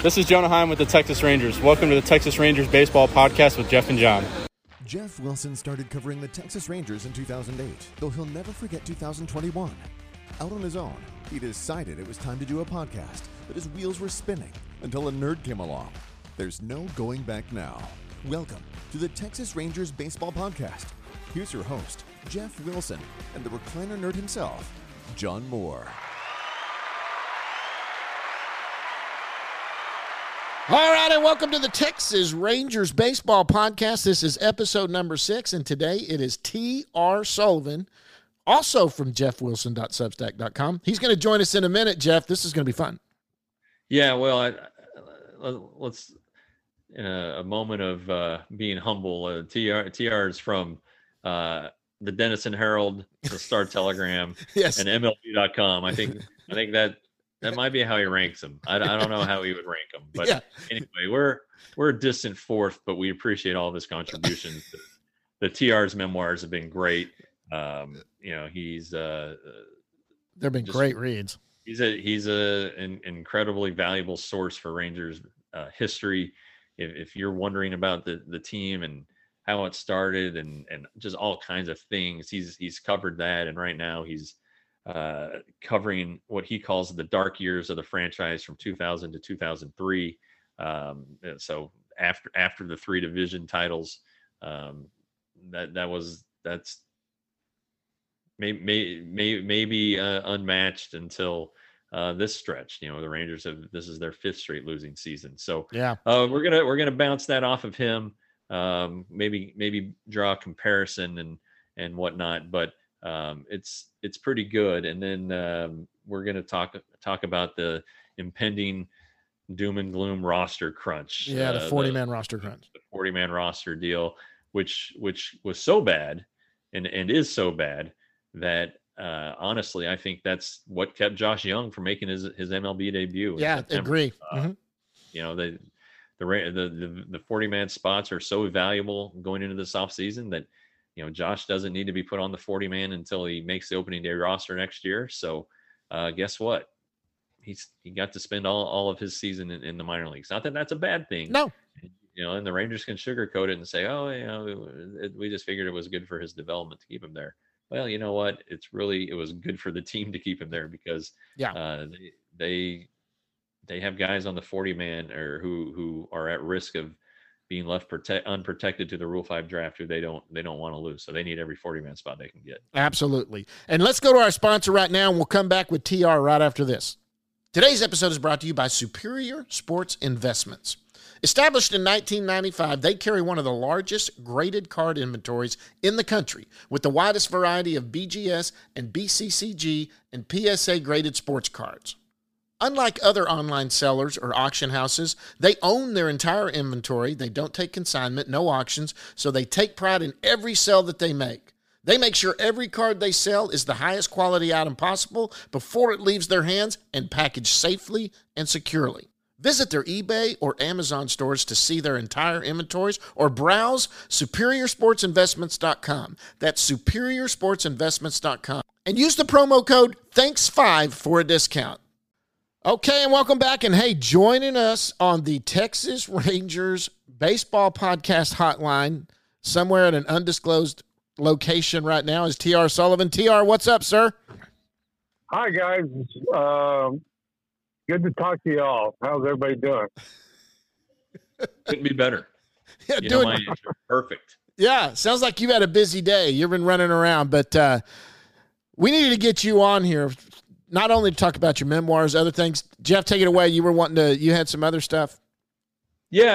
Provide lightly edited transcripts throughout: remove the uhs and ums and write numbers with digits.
This is Jonah Heim with the Texas Rangers. Welcome to the Texas Rangers Baseball Podcast with Jeff and John. Jeff Wilson started covering the Texas Rangers in 2008, though he'll never forget 2021. Out on his own, he decided it was time to do a podcast, but his wheels were spinning until a nerd came along. There's no going back now. Welcome to the Texas Rangers Baseball Podcast. Here's your host, Jeff Wilson, and the recliner nerd himself, John Moore. All right, and welcome to the Texas Rangers Baseball Podcast. This is episode number 6, and today it is T.R. Sullivan, also from jeffwilson.substack.com. He's going to join us in a minute, Jeff. This is going to be fun. Yeah, well, let's, in a moment of being humble, TR is from the Denison Herald, the Star Telegram, Yes. and MLB.com. I think that might be how he ranks them. I don't know how he would rank them, but Yeah. Anyway, we're a distant fourth, but we appreciate all of his contributions. The TR's memoirs have been great. He's They've been great reads. He's an incredibly valuable source for Rangers history. If you're wondering about the team and how it started and just all kinds of things, he's covered that. And right now he's covering what he calls the dark years of the franchise from 2000 to 2003. So after the 3 division titles, that's maybe unmatched until this stretch. The Rangers this is their 5th straight losing season. So Yeah. We're gonna bounce that off of him. Maybe draw a comparison and whatnot, but it's pretty good. And then we're going to talk about the impending doom and gloom roster crunch. Yeah, the 40-man roster crunch. The 40-man roster deal, which was so bad and is so bad that honestly, I think that's what kept Josh Young from making his MLB debut. Yeah, agree. The 40-man spots are so valuable going into this offseason that Josh doesn't need to be put on the 40-man until he makes the opening day roster next year. So guess what? He got to spend all of his season in the minor leagues. Not that that's a bad thing. No. And the Rangers can sugarcoat it and say, we just figured it was good for his development to keep him there. Well, you know what? It was good for the team to keep him there because they have guys on the 40-man or who are at risk of being left unprotected to the Rule 5 draft who they don't want to lose. So they need every 40-man spot they can get. Absolutely. And let's go to our sponsor right now, and we'll come back with TR right after this. Today's episode is brought to you by Superior Sports Investments. Established in 1995, they carry one of the largest graded card inventories in the country with the widest variety of BGS and BCCG and PSA graded sports cards. Unlike other online sellers or auction houses, they own their entire inventory. They don't take consignment, no auctions, so they take pride in every sale that they make. They make sure every card they sell is the highest quality item possible before it leaves their hands and packaged safely and securely. Visit their eBay or Amazon stores to see their entire inventories or browse SuperiorSportsInvestments.com. That's SuperiorSportsInvestments.com. And use the promo code THANKS5 for a discount. Okay, and welcome back. And hey, joining us on the Texas Rangers Baseball Podcast hotline, somewhere at an undisclosed location right now, is T.R. Sullivan. T.R., what's up, sir? Hi, guys. Good to talk to you all. How's everybody doing? Couldn't be better. Yeah, My answer, perfect. Yeah, sounds like you've had a busy day. You've been running around, but we needed to get you on here. Not only to talk about your memoirs, other things. Jeff, take it away. You had some other stuff. Yeah,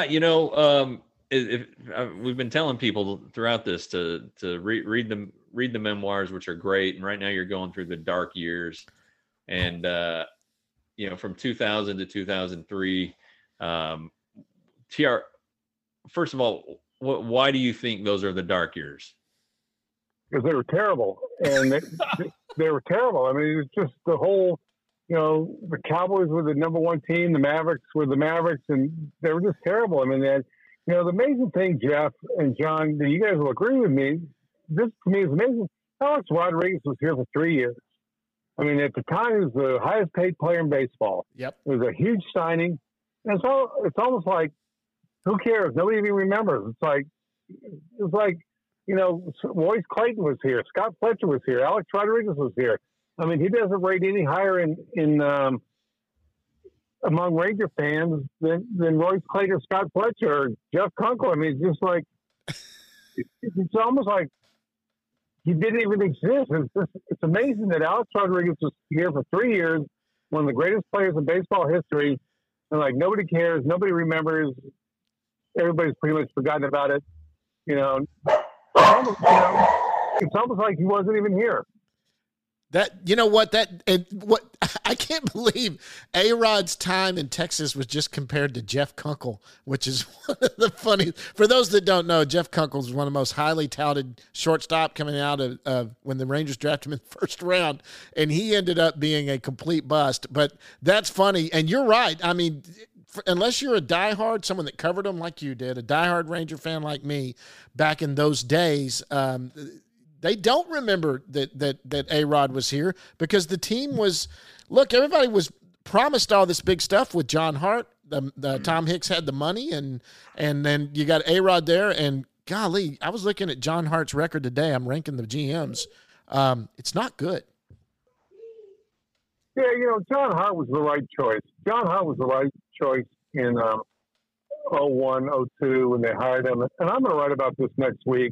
we've been telling people throughout this to read the memoirs, which are great. And right now you're going through the dark years, and from 2000 to 2003. TR, first of all, why do you think those are the dark years? Because they were terrible, and they were terrible. I mean, it was just the whole, the Cowboys were the number one team, the Mavericks were the Mavericks, and they were just terrible. I mean, they had, the amazing thing, Jeff and John, that you guys will agree with me, this to me is amazing. Alex Rodriguez was here for 3 years. I mean, at the time, he was the highest paid player in baseball. Yep. It was a huge signing. And so it's almost like, who cares? Nobody even remembers. It's like, Royce Clayton was here, Scott Fletcher was here, Alex Rodriguez was here. I mean, he doesn't rate any higher in among Ranger fans than Royce Clayton or Scott Fletcher or Jeff Kunkel. I mean, it's just like, it's almost like he didn't even exist. It's amazing that Alex Rodriguez was here for 3 years, one of the greatest players in baseball history, and like nobody cares, nobody remembers, everybody's pretty much forgotten about it. It's almost like he wasn't even here. I can't believe A-Rod's time in Texas was just compared to Jeff Kunkel, which is one of the funny. For those that don't know, Jeff Kunkel is one of the most highly touted shortstop coming out of when the Rangers drafted him in the first round, and he ended up being a complete bust. But that's funny, and you're right. I mean, unless you're a diehard, someone that covered him like you did, a diehard Ranger fan like me back in those days, they don't remember that A-Rod was here because the team was – look, everybody was promised all this big stuff with John Hart. The Tom Hicks had the money, and then you got A-Rod there. And, golly, I was looking at John Hart's record today. I'm ranking the GMs. It's not good. Yeah, John Hart was the right choice. John Hart was the right choice in 01, 02 when they hired him. And I'm going to write about this next week.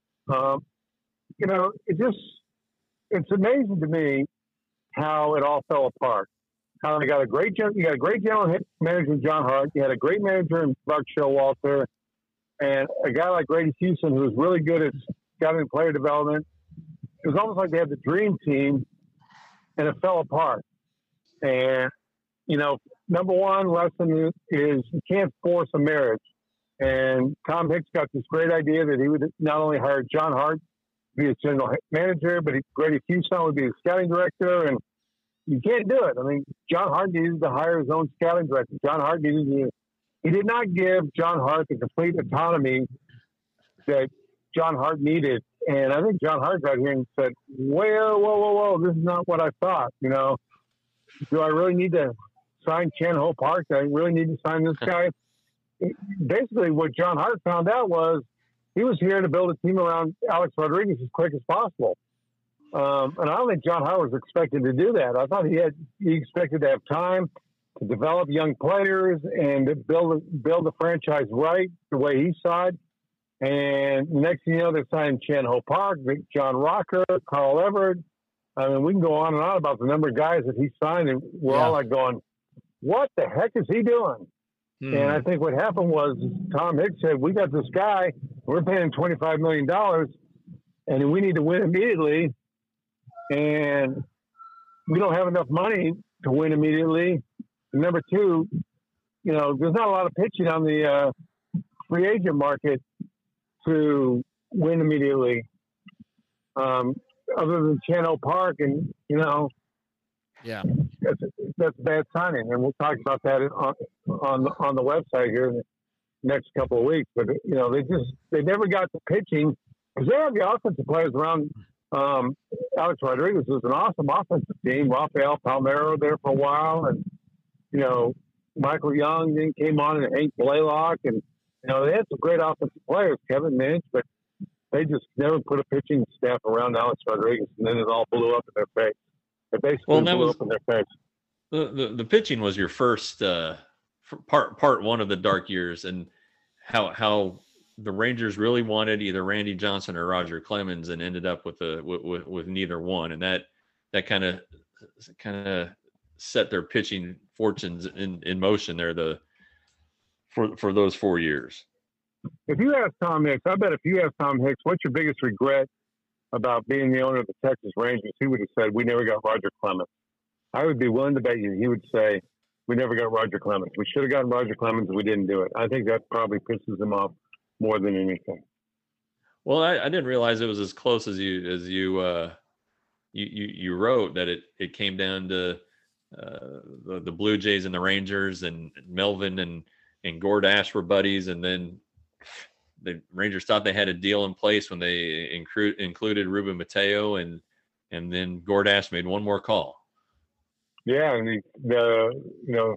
It's amazing to me how it all fell apart. How you got a great general manager in John Hart. You had a great manager in Buck Showalter, and a guy like Grady Houston who was really good at scouting player development. It was almost like they had the dream team, and it fell apart. And number one lesson is you can't force a marriage. And Tom Hicks got this great idea that he would not only hire John Hart to be his general manager, but Grady Houston would be his scouting director. And you can't do it. I mean, John Hart needed to hire his own scouting director. He did not give John Hart the complete autonomy that John Hart needed. And I think John Hart got here and said, whoa, this is not what I thought. Do I really need to sign Chan Ho Park? Do I really need to sign this guy? Basically, what John Hart found out was he was here to build a team around Alex Rodriguez as quick as possible. And I don't think John Hart was expected to do that. I thought he expected to have time to develop young players and to build the franchise right the way he saw it. And next thing you know, they're signing Chan Ho Park, John Rocker, Carl Everett. I mean, we can go on and on about the number of guys that he signed, and we're all like going, what the heck is he doing? And I think what happened was Tom Hicks said, we got this guy, we're paying $25 million, and we need to win immediately. And we don't have enough money to win immediately. And number two, there's not a lot of pitching on the free agent market to win immediately. Other than Chan Ho Park, and that's a bad signing, and we'll talk about that on the website here in the next couple of weeks. But they never got the pitching because they have the offensive players around. Alex Rodriguez was an awesome offensive team. Rafael Palmeiro there for a while, and Michael Young then came on, and Hank Blaylock, and they had some great offensive players, Kevin Minch, but they just never put a pitching staff around Alex Rodriguez, and then it all blew up in their face. It basically blew up in their face. The pitching was your first part one of the dark years, and how the Rangers really wanted either Randy Johnson or Roger Clemens, and ended up with neither one, and that kind of set their pitching fortunes in motion there for those 4 years. If you ask Tom Hicks, I bet if you ask Tom Hicks, what's your biggest regret about being the owner of the Texas Rangers, he would have said, we never got Roger Clemens. I would be willing to bet you he would say, we never got Roger Clemens. We should have gotten Roger Clemens, we didn't do it. I think that probably pisses him off more than anything. Well, I didn't realize it was as close as you wrote, that it came down to the Blue Jays and the Rangers, and Melvin and Gord Ash were buddies, and then the Rangers thought they had a deal in place when they included Ruben Mateo, and then Gord Ash made one more call. Yeah, and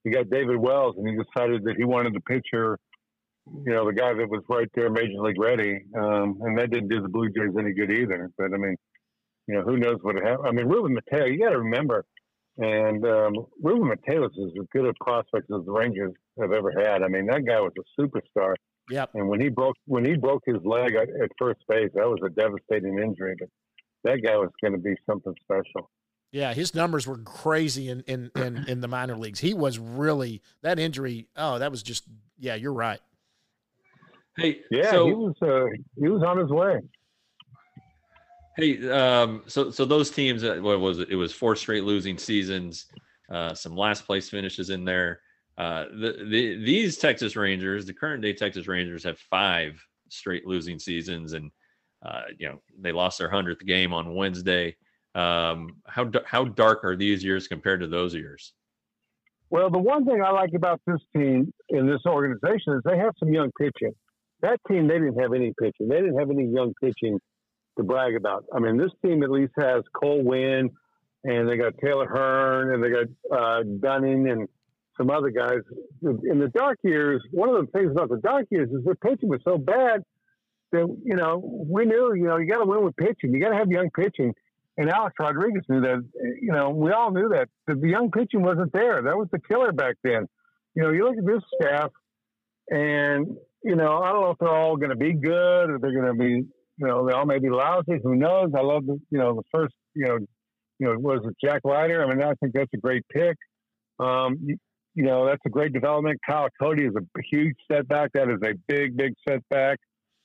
he got David Wells, and he decided that he wanted the pitcher, the guy that was right there, Major League ready, and that didn't do the Blue Jays any good either. But I mean, who knows what happened? I mean, Ruben Mateo, you got to remember, and Ruben Mateo is as good a prospect as the Rangers have ever had. I mean, that guy was a superstar. Yep. And when he broke his leg at first base, that was a devastating injury. But that guy was going to be something special. Yeah, his numbers were crazy in the minor leagues. He was really, that injury. Oh, that was just, yeah, you're right. Hey, yeah, so, he was on his way. Hey, so those teams, what was it? It was 4 straight losing seasons, some last place finishes in there. These Texas Rangers, the current day Texas Rangers, have 5 straight losing seasons, and they lost their 100th game on Wednesday. How dark are these years compared to those years? Well, the one thing I like about this team in this organization is they have some young pitching. That team, they didn't have any pitching. They didn't have any young pitching to brag about. I mean, this team at least has Cole Winn, and they got Taylor Hearn, and they got Dunning, and some other guys. In the dark years, one of the things about the dark years is their pitching was so bad that, we knew, you got to win with pitching. You got to have young pitching. And Alex Rodriguez knew that, we all knew that the young pitching wasn't there. That was the killer back then. You look at this staff and, I don't know if they're all going to be good or they're going to be, they all may be lousy. Who knows? I love the first, was it Jack Leiter? I mean, I think that's a great pick. That's a great development. Kyle Cody is a huge setback. That is a big, big setback.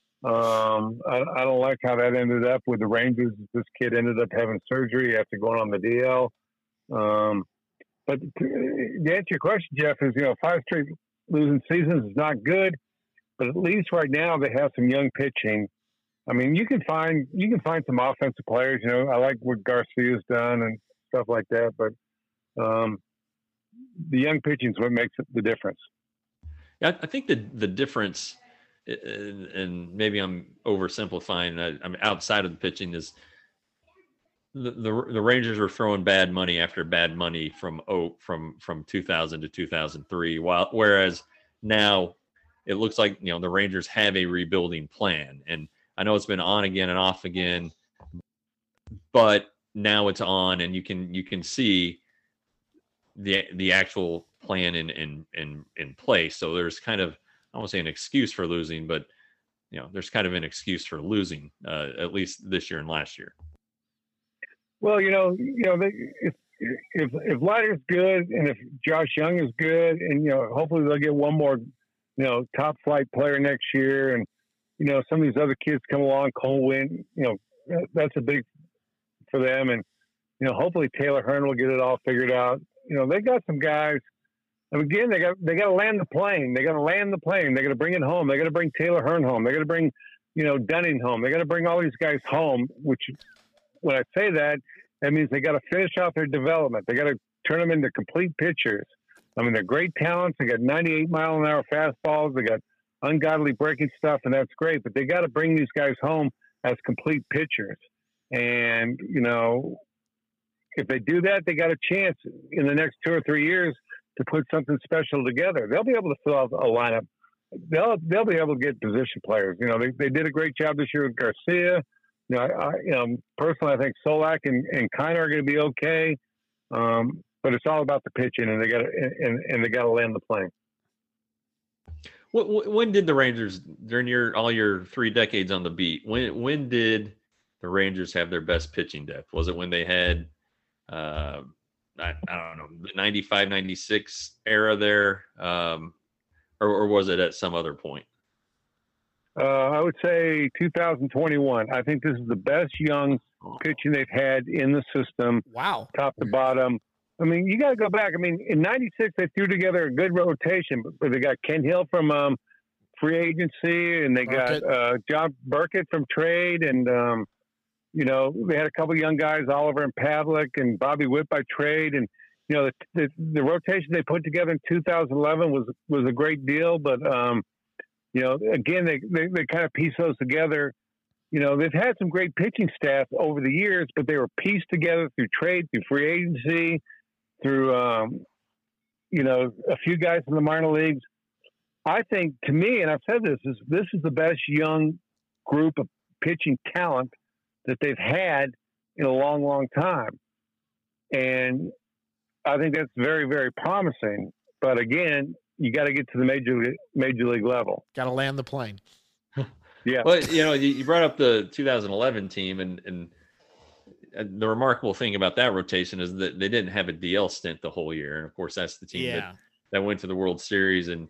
I don't like how that ended up with the Rangers. This kid ended up having surgery after going on the DL. But to answer your question, Jeff, is 5 straight losing seasons is not good, but at least right now they have some young pitching. I mean, you can find some offensive players. I like what Garcia's done and stuff like that, but the young pitching is what makes the difference. Yeah, I think the difference, and maybe I'm oversimplifying, I'm outside of the pitching, is the Rangers were throwing bad money after bad money from 2000 to 2003, whereas now it looks like the Rangers have a rebuilding plan. And I know it's been on again and off again, but now it's on, and you can see the actual plan in place. So there's kind of, I won't say an excuse for losing, but there's kind of an excuse for losing, at least this year and last year. Well, if Leiter's good and if Josh Young is good, and hopefully they'll get one more top flight player next year, and some of these other kids come along, Cole Winn, that's a big for them, and hopefully Taylor Hearn will get it all figured out. They got some guys. And again, they got to land the plane. They got to land the plane. They got to bring it home. They got to bring Taylor Hearn home. They got to bring, Dunning home. They got to bring all these guys home. Which, when I say that, that means they got to finish out their development. They got to turn them into complete pitchers. I mean, they're great talents. They got 98-mile-an-hour fastballs. They got ungodly breaking stuff, and that's great. But they got to bring these guys home as complete pitchers. And if they do that, they got a chance in the next 2 or 3 years to put something special together. They'll be able to fill out a lineup. They'll be able to get position players. They did a great job this year with Garcia. Personally, I think Solak and Kiner are going to be okay. But it's all about the pitching, and they got to land the plane. When did the Rangers, during all your 3 decades on the beat, when did the Rangers have their best pitching depth? Was it when they had I don't know, the 95, 96 era there, or was it at some other point? I would say 2021. I think this is the best young pitching they've had in the system. Wow. Top to bottom. I mean, you got to go back. I mean, in 96, they threw together a good rotation, but they got Ken Hill from free agency, and they got John Burkett from trade, and they had a couple young guys, Oliver and Pavlik and Bobby Witt by trade. And, the rotation they put together in 2011 was a great deal. But, again, they kind of piece those together. They've had some great pitching staff over the years, but they were pieced together through trade, through free agency, through, a few guys in the minor leagues. I think, to me, and I've said this is the best young group of pitching talent that they've had in a long, long time. And I think that's very, very promising. But again, you got to get to the major league level. Got to land the plane. Yeah. Well, you brought up the 2011 team, and the remarkable thing about that rotation is that they didn't have a DL stint the whole year. And of course, that's the team that went to the World Series. And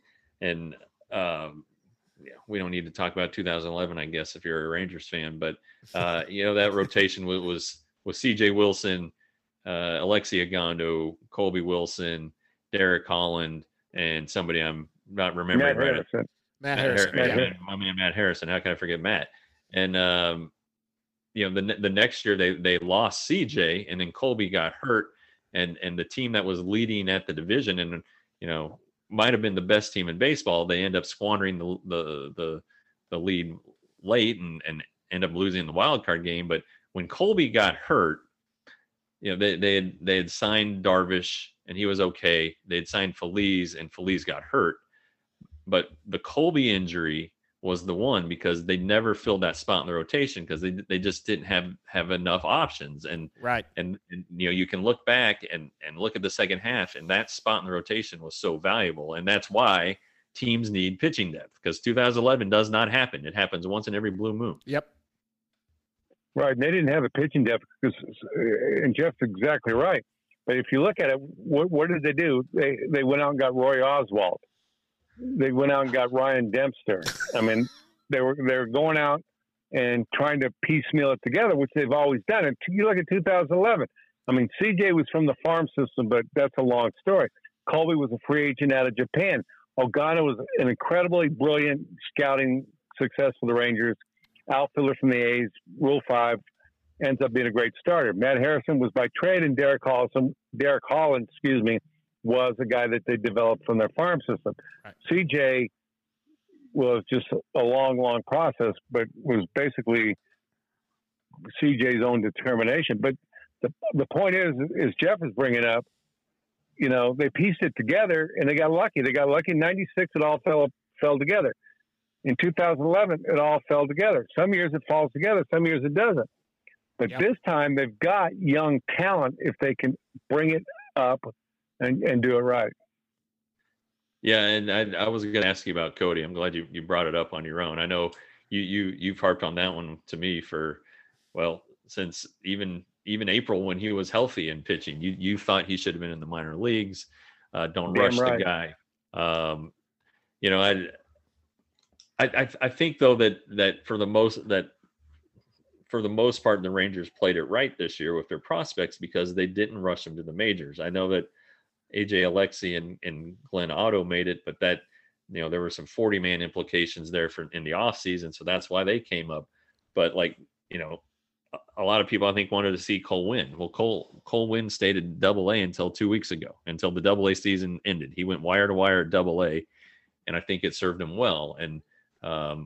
we don't need to talk about 2011, I guess, if you're a Rangers fan. But that rotation was C.J. Wilson, Alexi Agondo, Colby Wilson, Derek Holland, and somebody I'm not remembering right. Matt Harrison. My man Matt Harrison. How can I forget Matt? And the next year they lost CJ, and then Colby got hurt, and the team that was leading at the division and might have been the best team in baseball, they end up squandering the lead late and end up losing the wild card game. But when Colby got hurt, they had signed Darvish and he was okay. They had signed Feliz and Feliz got hurt. But the Colby injury was the one, because they never filled that spot in the rotation because they just didn't have enough options. And right. And you can look back and look at the second half, and that spot in the rotation was so valuable. And that's why teams need pitching depth, because 2011 does not happen. It happens once in every blue moon. Yep. Right. And they didn't have a pitching depth and Jeff's exactly right. But if you look at it, what did they do? They went out and got Roy Oswalt. They went out and got Ryan Dempster. I mean, they were going out and trying to piecemeal it together, which they've always done. And you look at 2011. I mean, CJ was from the farm system, but that's a long story. Colby was a free agent out of Japan. Ogana was an incredibly brilliant scouting success for the Rangers. Outfielder from the A's, Rule 5, ends up being a great starter. Matt Harrison was by trade, and Derek Holland, was a guy that they developed from their farm system. Right. CJ was just a long, long process, but was basically CJ's own determination. But the point is Jeff is bringing up, they pieced it together and they got lucky. They got lucky in 96. It all fell together. In 2011, it all fell together. Some years it falls together. Some years it doesn't. But This time they've got young talent if they can bring it up and do it right. Yeah, and I was going to ask you about Cody. I'm glad you brought it up on your own. I know you've harped on that one to me since even April when he was healthy and pitching. You thought he should have been in the minor leagues. Don't rush the guy. I think though that for the most part the Rangers played it right this year with their prospects because they didn't rush them to the majors. I know that AJ Alexi and Glenn Otto made it, but that, there were some 40-man implications there in the offseason. So that's why they came up. But a lot of people I think wanted to see Cole Winn. Well, Cole Winn stayed at Double-A until 2 weeks ago, until the Double-A season ended. He went wire to wire at Double-A, and I think it served him well. And, and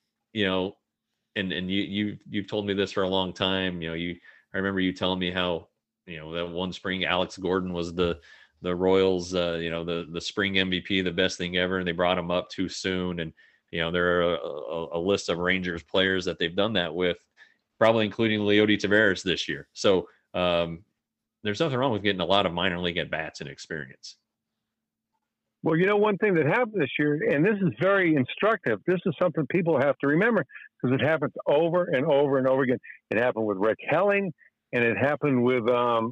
you've told me this for a long time. I remember you telling me how, that one spring Alex Gordon was the Royals, the spring MVP, the best thing ever, and they brought him up too soon. And there are a list of Rangers players that they've done that with, probably including Leody Taveras this year. So there's nothing wrong with getting a lot of minor league at bats and experience. Well, one thing that happened this year, and this is very instructive. This is something people have to remember because it happens over and over and over again. It happened with Rick Helling, and it happened with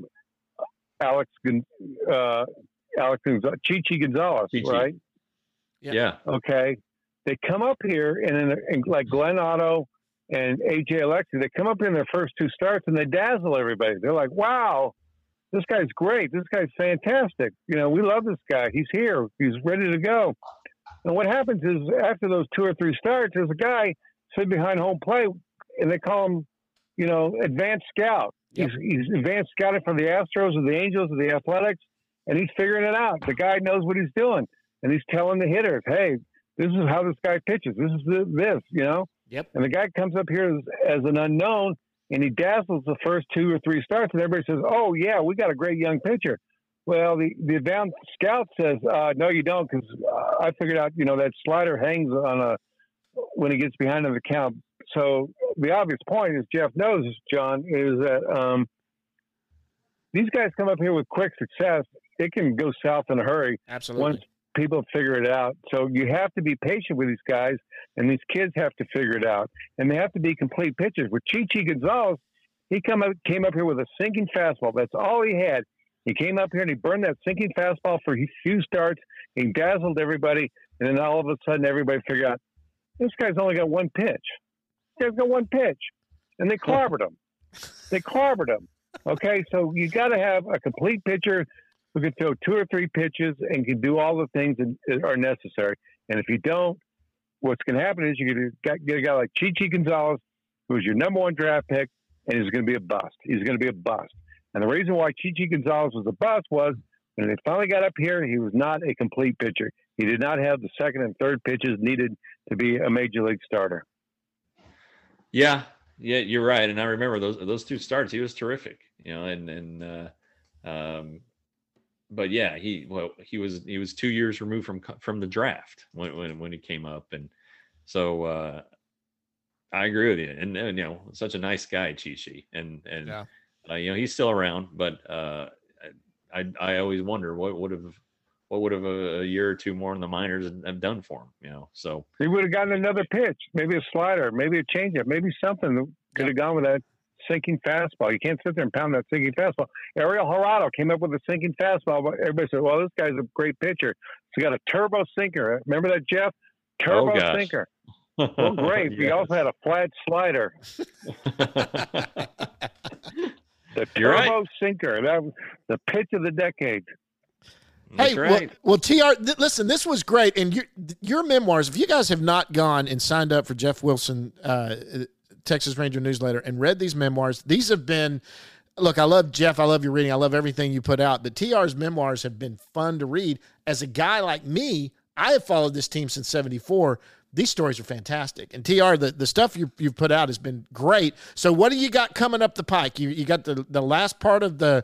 Chichi Gonzalez, right? Yeah. Okay. They come up here and like Glenn Otto and AJ Alexi, they come up in their first two starts and they dazzle everybody. They're like, wow, this guy's great. This guy's fantastic. We love this guy. He's here. He's ready to go. And what happens is after those 2 or 3 starts, there's a guy sitting behind home plate and they call him, advanced scout. Yep. He's advanced scouting for the Astros or the Angels or the Athletics, and he's figuring it out. The guy knows what he's doing, and he's telling the hitters, hey, this is how this guy pitches. This is this. Yep. And the guy comes up here as an unknown, and he dazzles the first 2 or 3 starts, and everybody says, oh, yeah, we got a great young pitcher. Well, the advanced scout says, no, you don't, because I figured out, that slider hangs when he gets behind on the count. So the obvious point, as Jeff knows, John, is that these guys come up here with quick success. It can go south in a hurry. Absolutely. Once people figure it out. So you have to be patient with these guys, and these kids have to figure it out. And they have to be complete pitchers. With Chichi Gonzalez, he came up here with a sinking fastball. That's all he had. He came up here and he burned that sinking fastball for a few starts. He dazzled everybody. And then all of a sudden, everybody figured out, this guy's only got one pitch. This guy's got one pitch. And they clobbered him. Okay, so you got to have a complete pitcher who can throw 2 or 3 pitches and can do all the things that are necessary. And if you don't, what's going to happen is you're going to get a guy like Chichi Gonzalez, who's your number 1 draft pick, and he's going to be a bust. He's going to be a bust. And the reason why Chichi Gonzalez was a bust was when they finally got up here, he was not a complete pitcher. He did not have the second and third pitches needed to be a major league starter. Yeah, you're right. And I remember those 2 starts. He was terrific, but yeah, he was 2 years removed from the draft when he came up, and so I agree with you. And such a nice guy, Chichi, and yeah. He's still around, but I always wonder what would have a year or 2 more in the minors have done for him. So he would have gotten another pitch, maybe a slider, maybe a changeup, maybe something that could have gone with that sinking fastball. You can't sit there and pound that sinking fastball. Ariel Jurado came up with a sinking fastball, but everybody said, well, this guy's a great pitcher. He's got a turbo sinker. Remember that, Jeff? Turbo sinker. Well, great. Yes. He also had a flat slider. The turbo sinker. That was the pitch of the decade. Hey, right. well, TR, listen, this was great. And your memoirs, if you guys have not gone and signed up for Jeff Wilson, Texas Ranger newsletter, and read these memoirs, these have been, look, I love Jeff. I love your reading. I love everything you put out. But TR's memoirs have been fun to read. As a guy like me, I have followed this team since '74. These stories are fantastic. And TR, the stuff you've put out has been great. So what do you got coming up the pike? You got the last part of the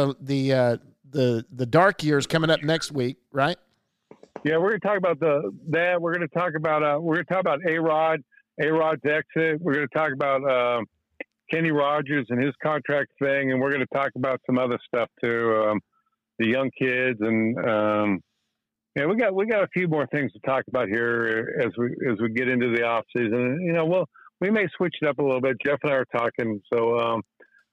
dark years coming up next week, right? Yeah, we're going to talk about that. We're going to talk about A-Rod's exit. We're going to talk about Kenny Rogers and his contract thing, and we're going to talk about some other stuff too, the young kids, and yeah, we got a few more things to talk about here as we get into the off season. We may switch it up a little bit. Jeff and I are talking, so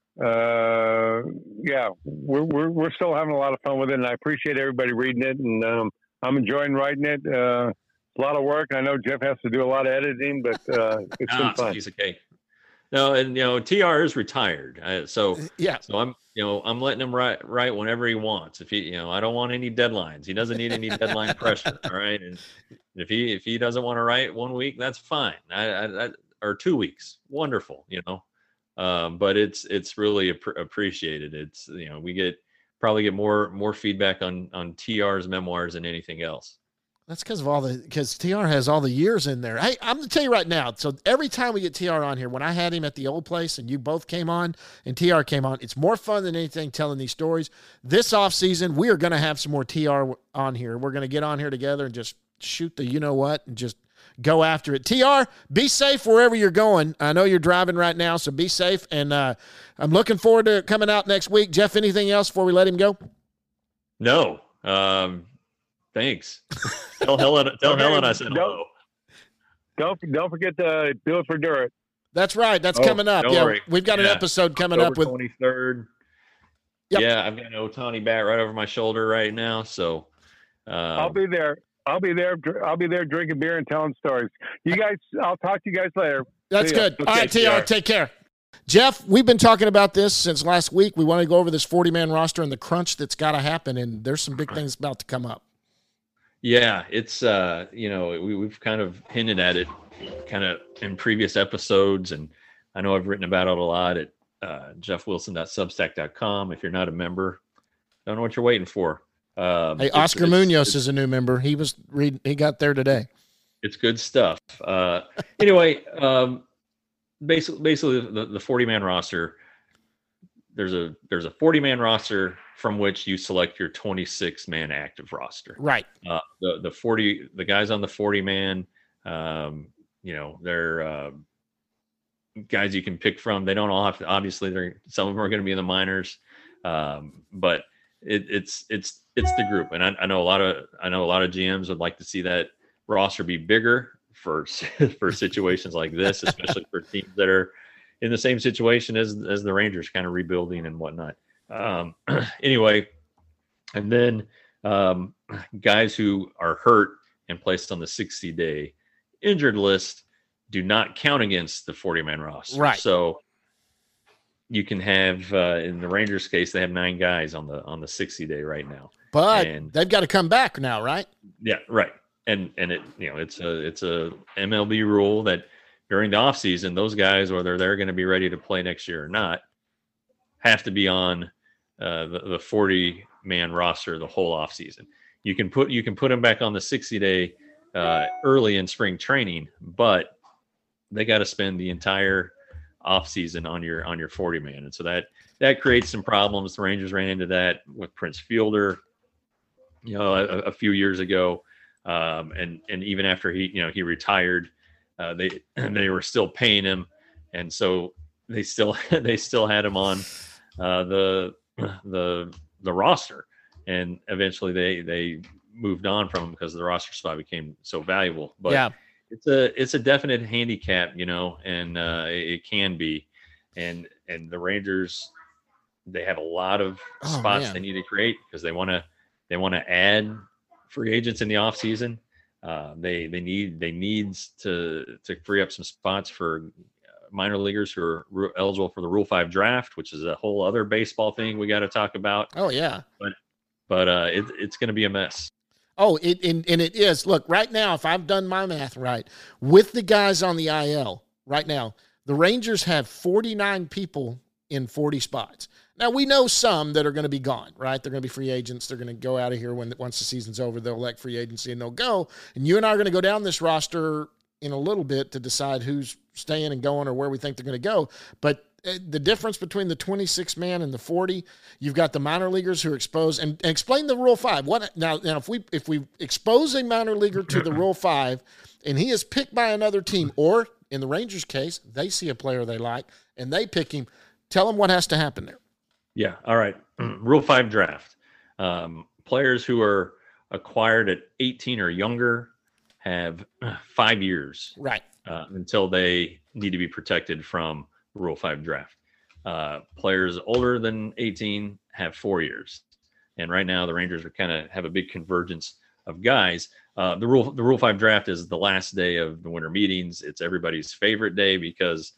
yeah, we're still having a lot of fun with it, and I appreciate everybody reading it, and I'm enjoying writing it. It's a lot of work. I know Jeff has to do a lot of editing, but it's been fun. It's a piece of cake. No, and TR is retired, so yeah. So I'm letting him write whenever he wants. If he, I don't want any deadlines. He doesn't need any deadline pressure. All right, and if he doesn't want to write 1 week, that's fine. Or 2 weeks, wonderful. But it's really appreciated. It's we probably get more feedback on TR's memoirs than anything else. That's because TR has all the years in there. Hey, I'm going to tell you right now. So every time we get TR on here, when I had him at the old place and you both came on and TR came on, it's more fun than anything telling these stories. This off season, we are going to have some more TR on here. We're going to get on here together and just shoot the and just go after it. TR, be safe wherever you're going. I know you're driving right now, so be safe. And I'm looking forward to it coming out next week. Jeff, anything else before we let him go? No. Thanks. Tell Helen I said hello. Don't forget to do it for Durrett. That's right. That's coming up. Yeah, worry. We've got an episode coming October up with 23rd. Yep. Yeah, I've got an Ohtani bat right over my shoulder right now. So I'll be there. I'll be there drinking beer and telling stories. You guys, I'll talk to you guys later. That's good. Okay, all right, TR, take care. Jeff, we've been talking about this since last week. We want to go over this 40-man roster and the crunch that's got to happen, and there's some big things about to come up. Yeah, it's we've kind of hinted at it kind of in previous episodes, and I know I've written about it a lot at jeffwilson.substack.com. If you're not a member, don't know what you're waiting for. Hey, Oscar Munoz is a new member. He was reading. He got there today. It's good stuff. Anyway, basically the 40-man roster. There's a 40-man roster from which you select your 26-man active roster. Right. The guys on the 40-man, they're guys you can pick from. They don't all have to, obviously some of them are going to be in the minors, but it's the group. And I know a lot of GMs would like to see that roster be bigger for situations like this, especially for teams that are in the same situation as the Rangers, kind of rebuilding and whatnot. Anyway, and then guys who are hurt and placed on the 60-day injured list do not count against the 40-man roster. Right. So you can have, in the Rangers case, they have 9 guys on the 60-day right now. But they've got to come back now, right? Yeah, right. And it, it's a MLB rule that during the offseason, those guys, whether they're going to be ready to play next year or not, have to be on the 40-man roster the whole offseason. You can put them back on the 60-day early in spring training, but they got to spend the entire offseason on your 40-man, and so that creates some problems. The Rangers ran into that with Prince Fielder, a few years ago, and even after he retired, they were still paying him, and so they still had him on the roster, and eventually they moved on from him because the roster spot became so valuable. But yeah, it's a definite handicap, and it can be, and the Rangers, they have a lot of spots they need to create because they want to add free agents in the off season. They need to free up some spots for minor leaguers who are eligible for the Rule 5 draft, which is a whole other baseball thing we got to talk about. Oh yeah. But it's going to be a mess. Oh, it is. Look, right now, if I've done my math right, with the guys on the IL right now, the Rangers have 49 people in 40 spots. Now, we know some that are going to be gone, right? They're going to be free agents. They're going to go out of here once the season's over. They'll elect free agency and they'll go. And you and I are going to go down this roster in a little bit to decide who's staying and going or where we think they're going to go. But the difference between the 26-man and the 40, you've got the minor leaguers who are exposed. And explain the Rule 5. Now, if we expose a minor leaguer to the Rule 5 and he is picked by another team, or in the Rangers case, they see a player they like and they pick him, tell them what has to happen there. Yeah. All right. Rule 5 draft. Players who are acquired at 18 or younger have 5 years, right, until they need to be protected from Rule 5 draft. Players older than 18 have 4 years. And right now the Rangers are have a big convergence of guys. The Rule 5 draft is the last day of the winter meetings. It's everybody's favorite day because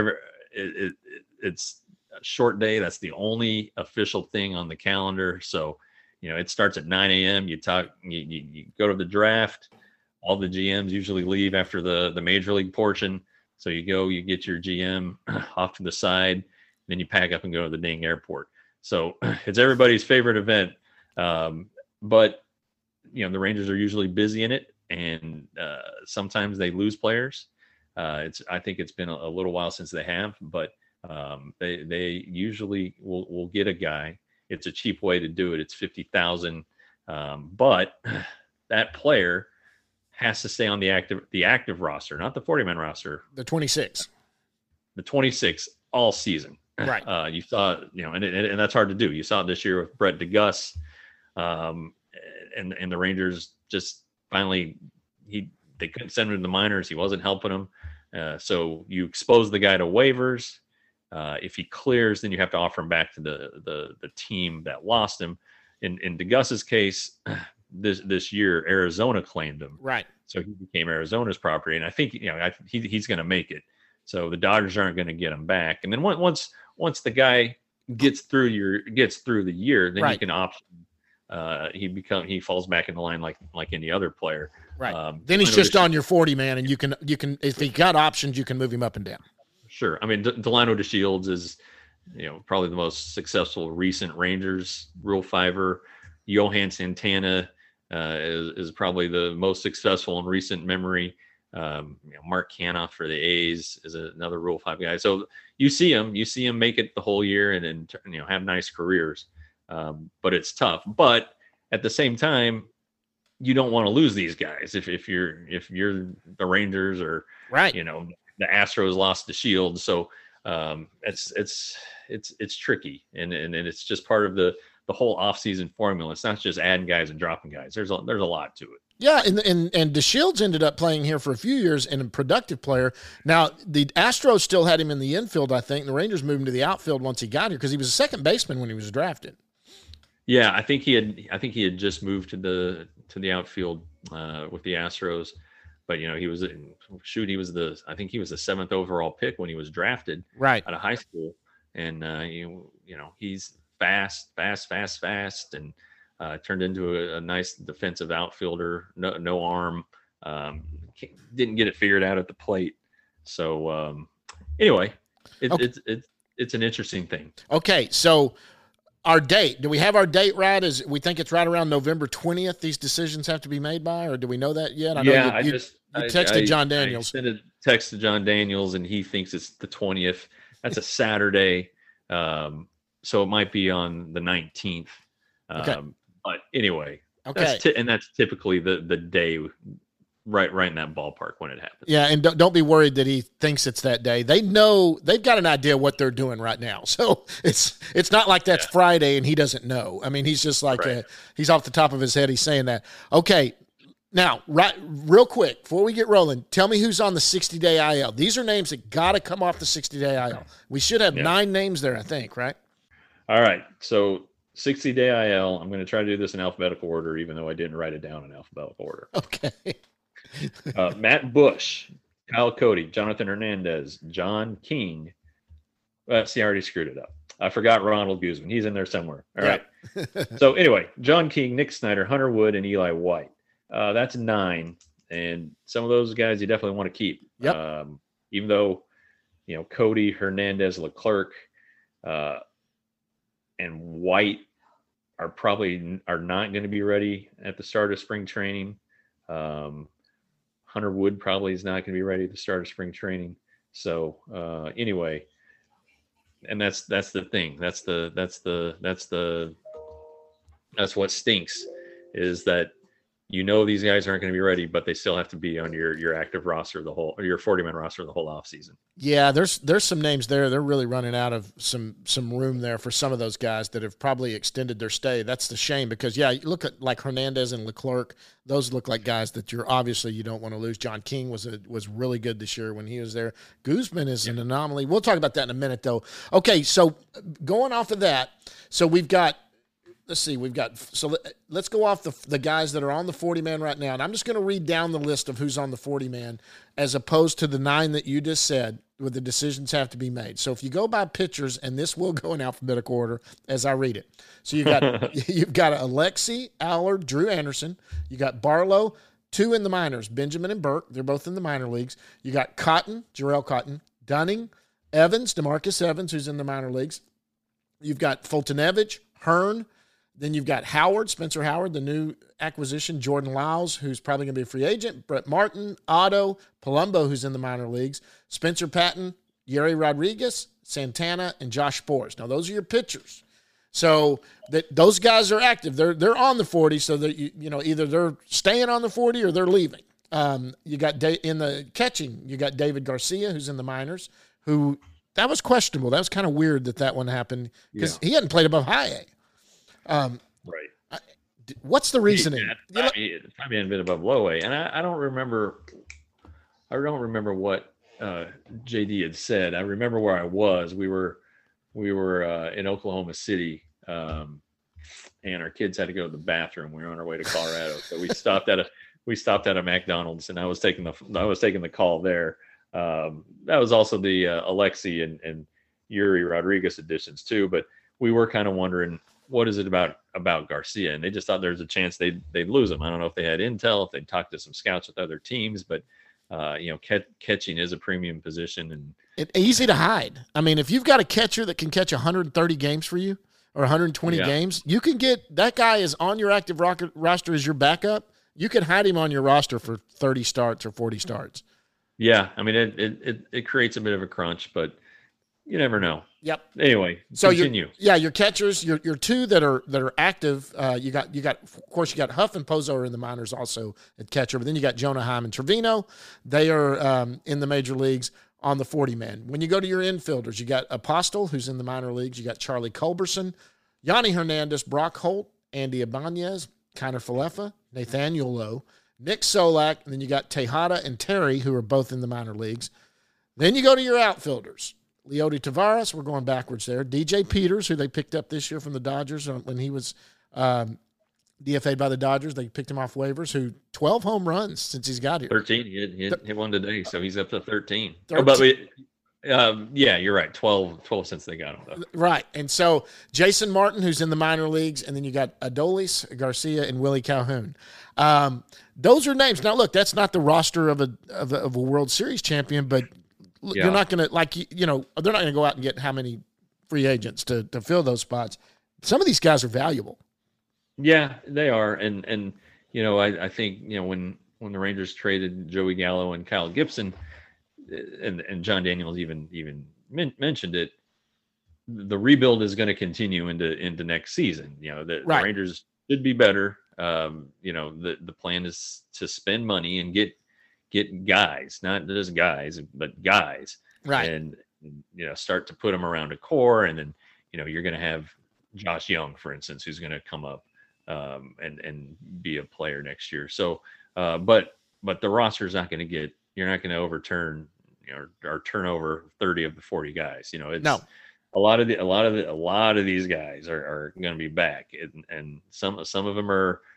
it's a short day. That's the only official thing on the calendar. So, it starts at 9 a.m. You go to the draft. All the GMs usually leave after the major league portion. So you get your GM off to the side, then you pack up and go to the dang airport. So it's everybody's favorite event. But the Rangers are usually busy in it, and sometimes they lose players. I think it's been a little while since they have, but they usually will get a guy. It's a cheap way to do it. It's $50,000, but that player has to stay on the active roster, not the 40-man roster. The 26. The 26 all season. Right. You saw, and that's hard to do. You saw it this year with Brett DeGuss, and the Rangers just finally they couldn't send him to the minors. He wasn't helping them. So you expose the guy to waivers. If he clears, then you have to offer him back to the team that lost him. In DeGuss's case, this year Arizona claimed him, right? So he became Arizona's property, and I think he's going to make it. So the Dodgers aren't going to get him back. And then once the guy gets through the year, then right, you can option. He falls back in the line like any other player. Right. Then he's just on your 40-man, and you can if he got options, you can move him up and down. Sure. I mean, Delano DeShields is probably the most successful recent Rangers Rule 5er. Johan Santana is probably the most successful in recent memory. Mark Canoff for the A's is another Rule 5 guy. So you see them make it the whole year and have nice careers. but it's tough. But at the same time, you don't want to lose these guys if you're the Rangers or right. The Astros lost the Shield, so it's tricky, and it's just part of the whole offseason formula. It's not just adding guys and dropping guys. There's a lot to it. Yeah, and DeShields ended up playing here for a few years and a productive player. Now, the Astros still had him in the infield, I think. And the Rangers moved him to the outfield once he got here because he was a second baseman when he was drafted. Yeah, I think he had just moved to the outfield with the Astros, but he was the 7th overall pick when he was drafted right out of high school, and he's fast, and turned into a nice defensive outfielder. No arm, didn't get it figured out at the plate. So anyway, it's an interesting thing. Okay, so. Our date, do we have our date right? We think it's right around November 20th these decisions have to be made by, or do we know that yet? I texted John Daniels. I sent a text to John Daniels, and he thinks it's the 20th. That's a Saturday, so it might be on the 19th. Okay. But anyway, okay. That's typically the day right in that ballpark when it happens. Yeah, and don't be worried that he thinks it's that day. They know, they've got an idea what they're doing right now. So it's not like that's Friday and he doesn't know. I mean, he's just like he's off the top of his head. He's saying that. Okay, now real quick before we get rolling, tell me who's on the 60-day IL. These are names that got to come off the 60-day IL. We should have 9 names there, I think, right? All right, so 60-day IL. I'm going to try to do this in alphabetical order, even though I didn't write it down in alphabetical order. Okay. Matt Bush, Kyle Cody, Jonathan Hernandez, John King. See, I already screwed it up. I forgot Ronald Guzman. He's in there somewhere. All right. So anyway, John King, Nick Snyder, Hunter Wood, and Eli White. That's 9. And some of those guys you definitely want to keep. Yep. Even though, Cody, Hernandez, Leclerc, and White are not going to be ready at the start of spring training. Hunter Wood probably is not going to be ready at the start of spring training. So anyway, and that's the thing. That's what stinks, is that these guys aren't going to be ready, but they still have to be on your active roster or your 40-man roster the whole offseason. Yeah, there's some names there. They're really running out of some room there for some of those guys that have probably extended their stay. That's the shame because, you look at like Hernandez and Leclerc. Those look like guys that you don't want to lose. John King was really good this year when he was there. Guzman is an anomaly. We'll talk about that in a minute, though. Okay, so going off of that, so we've got – let's go off the guys that are on the 40-man right now. And I'm just going to read down the list of who's on the 40-man as opposed to the 9 that you just said where the decisions have to be made. So if you go by pitchers, and this will go in alphabetical order as I read it. So you've got Alexi, Allard, Drew Anderson. You got Barlow, 2 in the minors, Benjamin and Burke. They're both in the minor leagues. You got Cotton, Jarrell Cotton, Dunning, Evans, DeMarcus Evans, who's in the minor leagues. You've got Fultonevich, Hearn. Then you've got Howard, Spencer Howard, the new acquisition, Jordan Lyles, who's probably going to be a free agent, Brett Martin, Otto, Palumbo, who's in the minor leagues, Spencer Patton, Yuri Rodriguez, Santana, and Josh Sborz. Now, those are your pitchers. So those guys are active. They're on the 40, so that either they're staying on the 40 or they're leaving. You got in the catching, you got David Garcia, who's in the minors, who that was questionable. That was kind of weird that one happened because he hadn't played above high A. Right. What's the reasoning? Probably hadn't been above low A, and I don't remember. I don't remember what JD had said. I remember where I was. We were in Oklahoma City, and our kids had to go to the bathroom. We were on our way to Colorado, so we stopped at a McDonald's, and I was taking the call there. That was also the Alexi and Yuri Rodriguez additions too, but we were kind of wondering, what is it about Garcia? And they just thought there's a chance they'd lose him. I don't know if they had intel, if they'd talked to some scouts with other teams, but catching is a premium position and it's easy to hide. I mean, if you've got a catcher that can catch 130 games for you or 120 games, you can get that guy is on your active roster as your backup. You can hide him on your roster for 30 starts or 40 starts. Yeah, I mean it creates a bit of a crunch, but You never know. Yep. Anyway, So continue. your catchers, your two that are active. You got of course you got Huff and Pozo are in the minors also at catcher, but then you got Jonah Heim and Trevino. They are in the major leagues on the 40-man. When you go to your infielders, you got Apostle, who's in the minor leagues. You got Charlie Culberson, Yanni Hernandez, Brock Holt, Andy Ibanez, Kiner Falefa, Nathaniel Lowe, Nick Solak, and then you got Tejada and Terry, who are both in the minor leagues. Then you go to your outfielders. Leody Taveras, we're going backwards there. DJ Peters, who they picked up this year from the Dodgers when he was DFA'd by the Dodgers. They picked him off waivers, who 12 home runs since he's got here. 13. He hit one today, so he's up to 13. 13. But yeah, you're right. 12 since they got him, though. Right. And so Jason Martin, who's in the minor leagues, and then you got Adolis Garcia and Willie Calhoun. Those are names. Now, look, that's not the roster of a World Series champion, but you're not going to, they're not going to go out and get how many free agents to fill those spots. Some of these guys are valuable. Yeah, they are. And I think, when the Rangers traded Joey Gallo and Kyle Gibson, and John Daniels even mentioned it, the rebuild is going to continue into next season. The Rangers should be better. The plan is to spend money and get guys, not just guys, but guys, right? And start to put them around a core, and then you're going to have Josh Young, for instance, who's going to come up and be a player next year. So, but the roster is not going to get. You're not going to overturn or turn over 30 of the 40 guys. It's no. A lot of these guys are going to be back, and some of them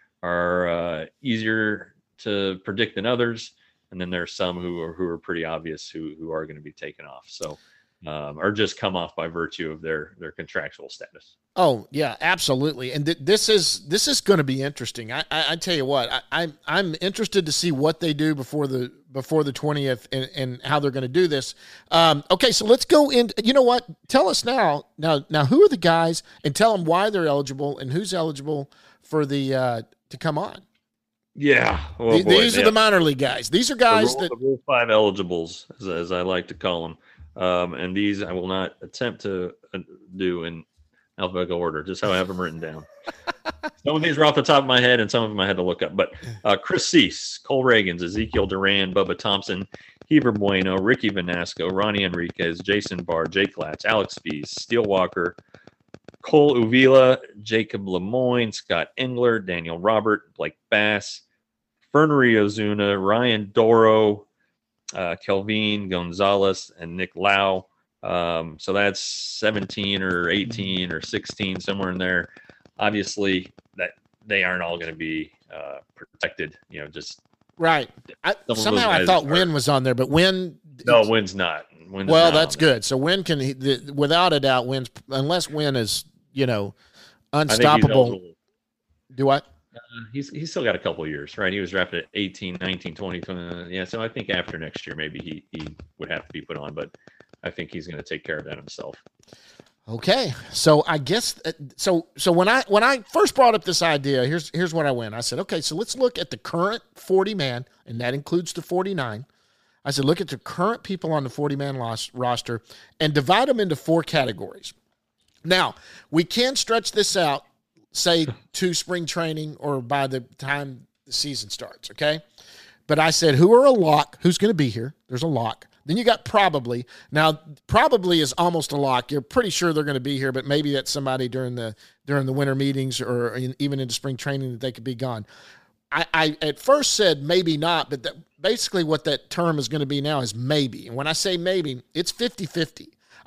are easier to predict than others, and then there's some who are pretty obvious who are going to be taken off. So, or just come off by virtue of their contractual status. Oh yeah, absolutely. And this is going to be interesting. I tell you what, I'm interested to see what they do before the 20th and how they're going to do this. Okay, so let's go in. You know what? Tell us now who are the guys, and tell them why they're eligible and who's eligible for the to come on. Yeah, these are the minor league guys. These are guys the Rule 5 eligibles, as I like to call them. And these I will not attempt to do in alphabetical order, just how I have them written down. Some of these are off the top of my head, and some of them I had to look up. But Chris Cease, Cole Reagans, Ezekiel Duran, Bubba Thompson, Heber Bueno, Ricky Vanasco, Ronnie Enriquez, Jason Barr, Jake Latch, Alex Fees, Steele Walker, Cole Uvila, Jacob Lemoyne, Scott Engler, Daniel Robert, Blake Bass, Fernery Ozuna, Ryan Doro, Kelvin Gonzalez, and Nick Lau. So that's 17 or 18 or 16, somewhere in there. Obviously, that they aren't all going to be protected. Just right. Somehow I thought Wynn was on there, but Wynn. No, Wynn's not. That's good. So Wynn can, without a doubt, Wynn's, unless Wynn is unstoppable. Do what? He's still got a couple of years, right? He was drafted at 18, 19, 20, 20. Yeah, so I think after next year, maybe he would have to be put on, but I think he's going to take care of that himself. Okay, so I guess so when I first brought up this idea, here's what I went. I said, okay, so let's look at the current 40-man, and that includes the 49. I said, look at the current people on the 40-man roster and divide them into 4 categories. Now, we can stretch this out, say, to spring training or by the time the season starts, okay? But I said, who are a lock? Who's going to be here? There's a lock. Then you got probably. Now, probably is almost a lock. You're pretty sure they're going to be here, but maybe that's somebody during the winter meetings or even into spring training that they could be gone. I at first said maybe not, but basically what that term is going to be now is maybe. And when I say maybe, it's 50-50.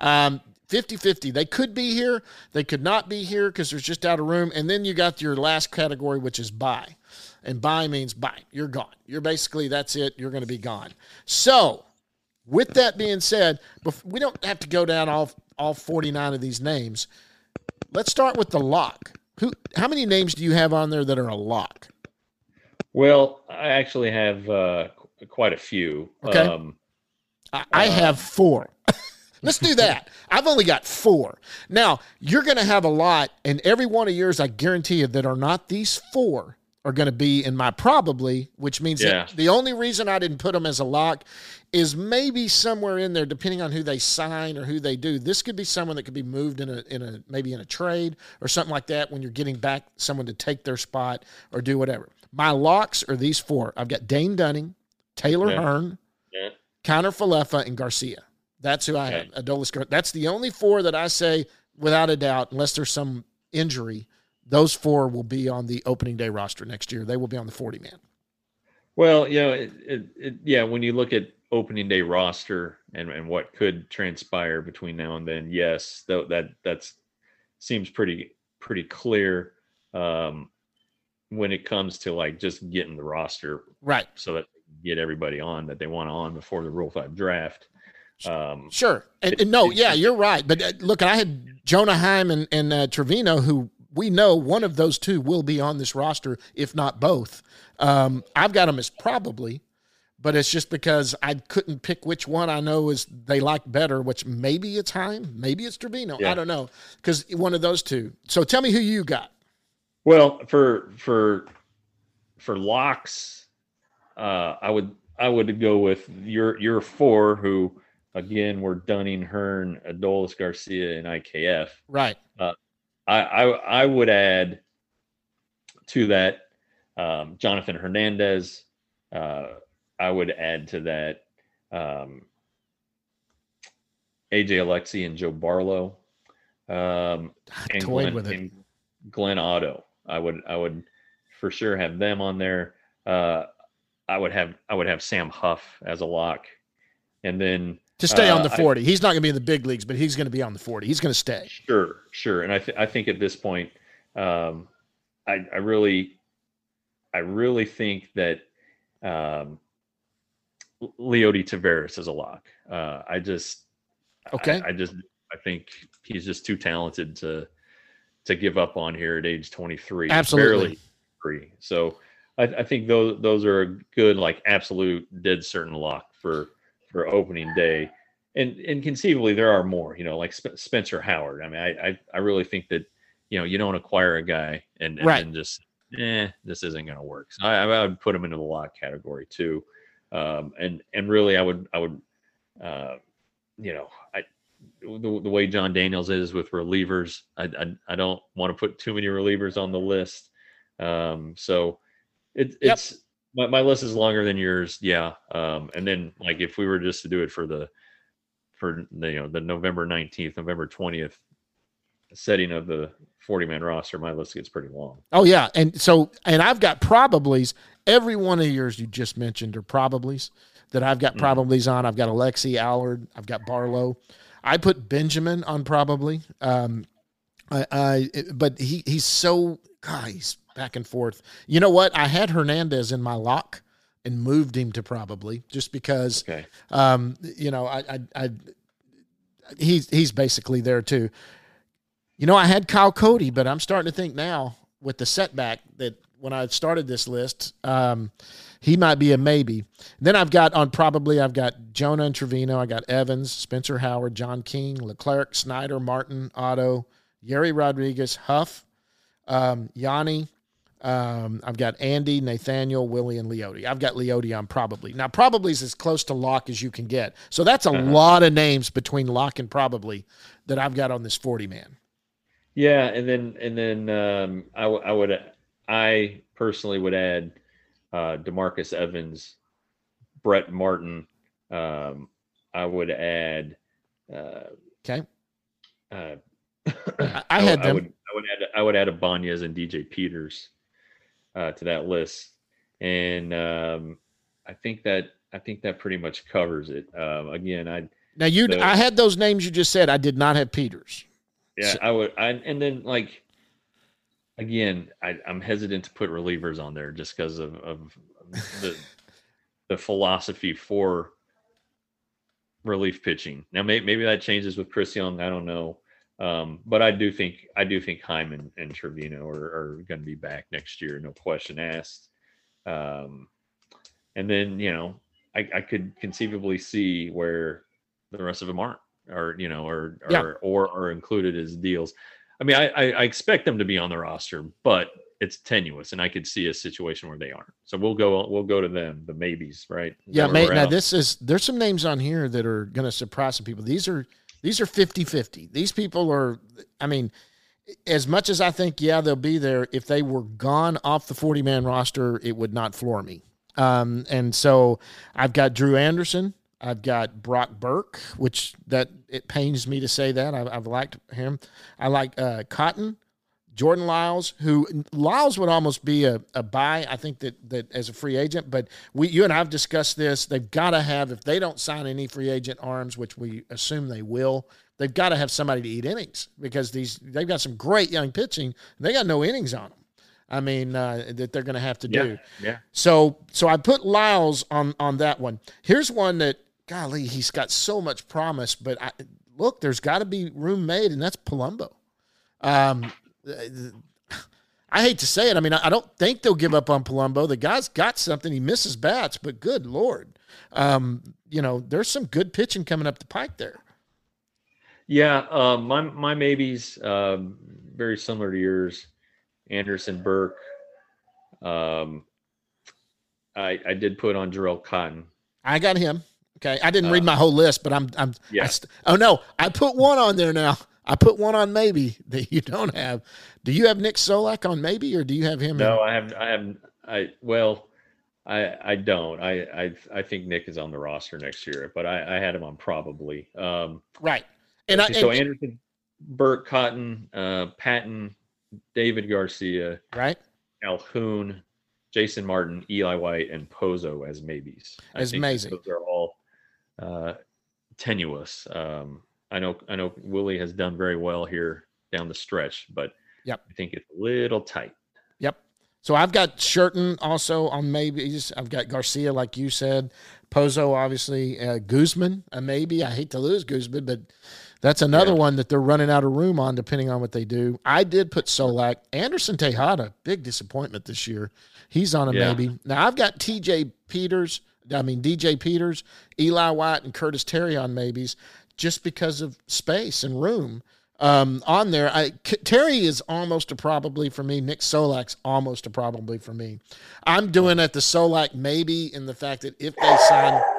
50-50. They could be here. They could not be here because there's just out of room. And then you got your last category, which is bye. And bye means bye. You're gone. You're basically, that's it. You're going to be gone. So with that being said, we don't have to go down all 49 of these names. Let's start with the lock. How many names do you have on there that are a lock? Well, I actually have quite a few. Okay. I have 4. Let's do that. I've only got 4. Now, you're going to have a lot, and every one of yours, I guarantee you, that are not these 4 are going to be in my probably, which means that the only reason I didn't put them as a lock is maybe somewhere in there, depending on who they sign or who they do. This could be someone that could be moved maybe in a trade or something like that when you're getting back someone to take their spot or do whatever. My locks are these four. I've got Dane Dunning, Taylor Hearn, Connor Falefa, and Garcia. That's who I have. Adolis. That's the only four that I say, without a doubt, unless there's some injury, those four will be on the opening day roster next year. They will be on the 40-man. Well, when you look at opening day roster and what could transpire between now and then, yes, that seems pretty clear when it comes to like just getting the roster right, so that they get everybody on that they want on before the Rule 5 draft. Sure, and no, you're right. But look, I had Jonah Heim and Trevino, who we know one of those two will be on this roster, if not both. I've got them as probably, but it's just because I couldn't pick which one I know is they like better, which maybe it's Heim, maybe it's Trevino. I don't know, because one of those two. So tell me who you got. Well, for locks, I would go with your four, who again were Dunning, Hearn, Adolis Garcia, and IKF. Right. I would add to that Jonathan Hernandez. I would add to that AJ Alexi and Joe Barlow, and Glenn Otto. I would for sure have them on there. I would have Sam Huff as a lock, and then to stay on the 40. He's not going to be in the big leagues, but he's going to be on the 40. He's going to stay. Sure. And I think at this point, I really think that Leody Taveras is a lock. I think he's just too talented to give up on here at age 23. Absolutely. Barely free. So I think those are a good, like, absolute dead certain lock for opening day. And conceivably there are more, like Spencer Howard. I mean, I really think that, you don't acquire a guy and then just, this isn't going to work. So I would put him into the lock category too. And really I would the way John Daniels is with relievers, I don't want to put too many relievers on the list. So it's my list is longer than yours. Yeah. And then, like, if we were just to do it for the November 19th, November 20th setting of the 40-man roster, my list gets pretty long. Oh yeah. And I've got probablys. Every one of yours you just mentioned are probablys that I've got probablys on. I've got Alexi, Allard, I've got Barlow. I put Benjamin on probably. But he's so, he's back and forth. You know what? I had Hernandez in my lock and moved him to probably just because, he's basically there too. I had Kyle Cody, but I'm starting to think now with the setback that when I started this list, he might be a maybe. Then I've got Jonah and Trevino. I got Evans, Spencer Howard, John King, Leclerc, Snyder, Martin, Otto, Yeri Rodriguez, Huff, Yanni. I've got Andy, Nathaniel, Willie, and Leody. I've got Leody on probably. Now, probably is as close to lock as you can get. So that's a lot of names between lock and probably that I've got on this 40-man. Yeah, and then I personally would add DeMarcus Evans, Brett Martin. I would add. Okay. I had them. I would add Ibanez and DJ Peters to that list, and I think that pretty much covers it. Again, I had those names you just said. I did not have Peters. Yeah, I would. And then, like, again, I'm hesitant to put relievers on there just because of the philosophy for relief pitching. Now, maybe that changes with Chris Young. I don't know. But I do think Hyman and Trevino are going to be back next year, no question asked. And then, I could conceivably see where the rest of them aren't, or are included as deals. I mean, I expect them to be on the roster, but it's tenuous, and I could see a situation where they aren't. So we'll go to them, the maybes, right? Yeah, mate. Now there's some names on here that are going to surprise some people. These are 50-50. These people are, I mean, as much as I think, yeah, they'll be there, if they were gone off the 40-man roster, it would not floor me. And so I've got Drew Anderson. I've got Brock Burke, which it pains me to say that. I've liked him. I like Cotton, Jordan Lyles, who Lyles would almost be a buy, I think, that as a free agent. But you and I have discussed this. They've got to have, if they don't sign any free agent arms, which we assume they will, they've got to have somebody to eat innings, because they've got some great young pitching. And they got no innings on them. I mean, that they're going to have to do. Yeah. So I put Lyles on that one. Here's one that, golly, he's got so much promise, but look, there's got to be room made, and that's Palumbo. I hate to say it. I mean, I don't think they'll give up on Palumbo. The guy's got something. He misses bats, but good Lord. There's some good pitching coming up the pike there. Yeah, my maybes, very similar to yours. Anderson, Burke. I did put on Jarrell Cotton. I got him. Okay, I didn't read my whole list, but I put one on there now. I put one on maybe that you don't have. Do you have Nick Solak on maybe, or do you have him? No, I don't. I think Nick is on the roster next year, but I had him on probably. Right. Anderson, Burke, Cotton, Patton, David Garcia, right, Calhoun, Jason Martin, Eli White, and Pozo as maybes. That's amazing. Those are all tenuous. I know Willie has done very well here down the stretch, but yep, I think it's a little tight. Yep. So I've got Sherton also on maybes. I've got Garcia, like you said, Pozo, obviously, Guzman, a maybe. I hate to lose Guzman, but that's another one that they're running out of room on, depending on what they do. I did put Solak. Anderson Tejada, big disappointment this year. He's on a maybe. Now, I've got DJ Peters, Eli White, and Curtis Terry on maybes, just because of space and room on there. Terry is almost a probably for me. Nick Solak's almost a probably for me. I'm doing at the Solak maybe in the fact that if they sign –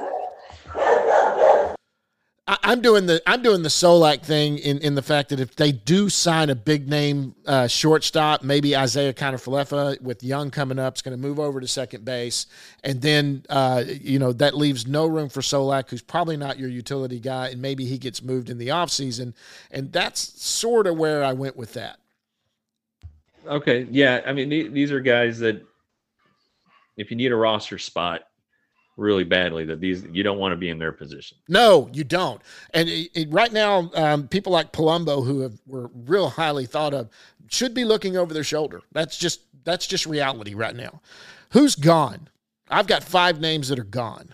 I'm doing the Solak thing in the fact that if they do sign a big name shortstop, maybe Isaiah Kiner-Falefa with Young coming up is going to move over to second base, and then that leaves no room for Solak, who's probably not your utility guy, and maybe he gets moved in the offseason, and that's sort of where I went with that. Okay, yeah, I mean these are guys that if you need a roster spot really badly, that you don't want to be in their position. No, you don't. And right now, people like Palumbo, who were real highly thought of, should be looking over their shoulder. That's just reality right now. Who's gone? I've got 5 names that are gone.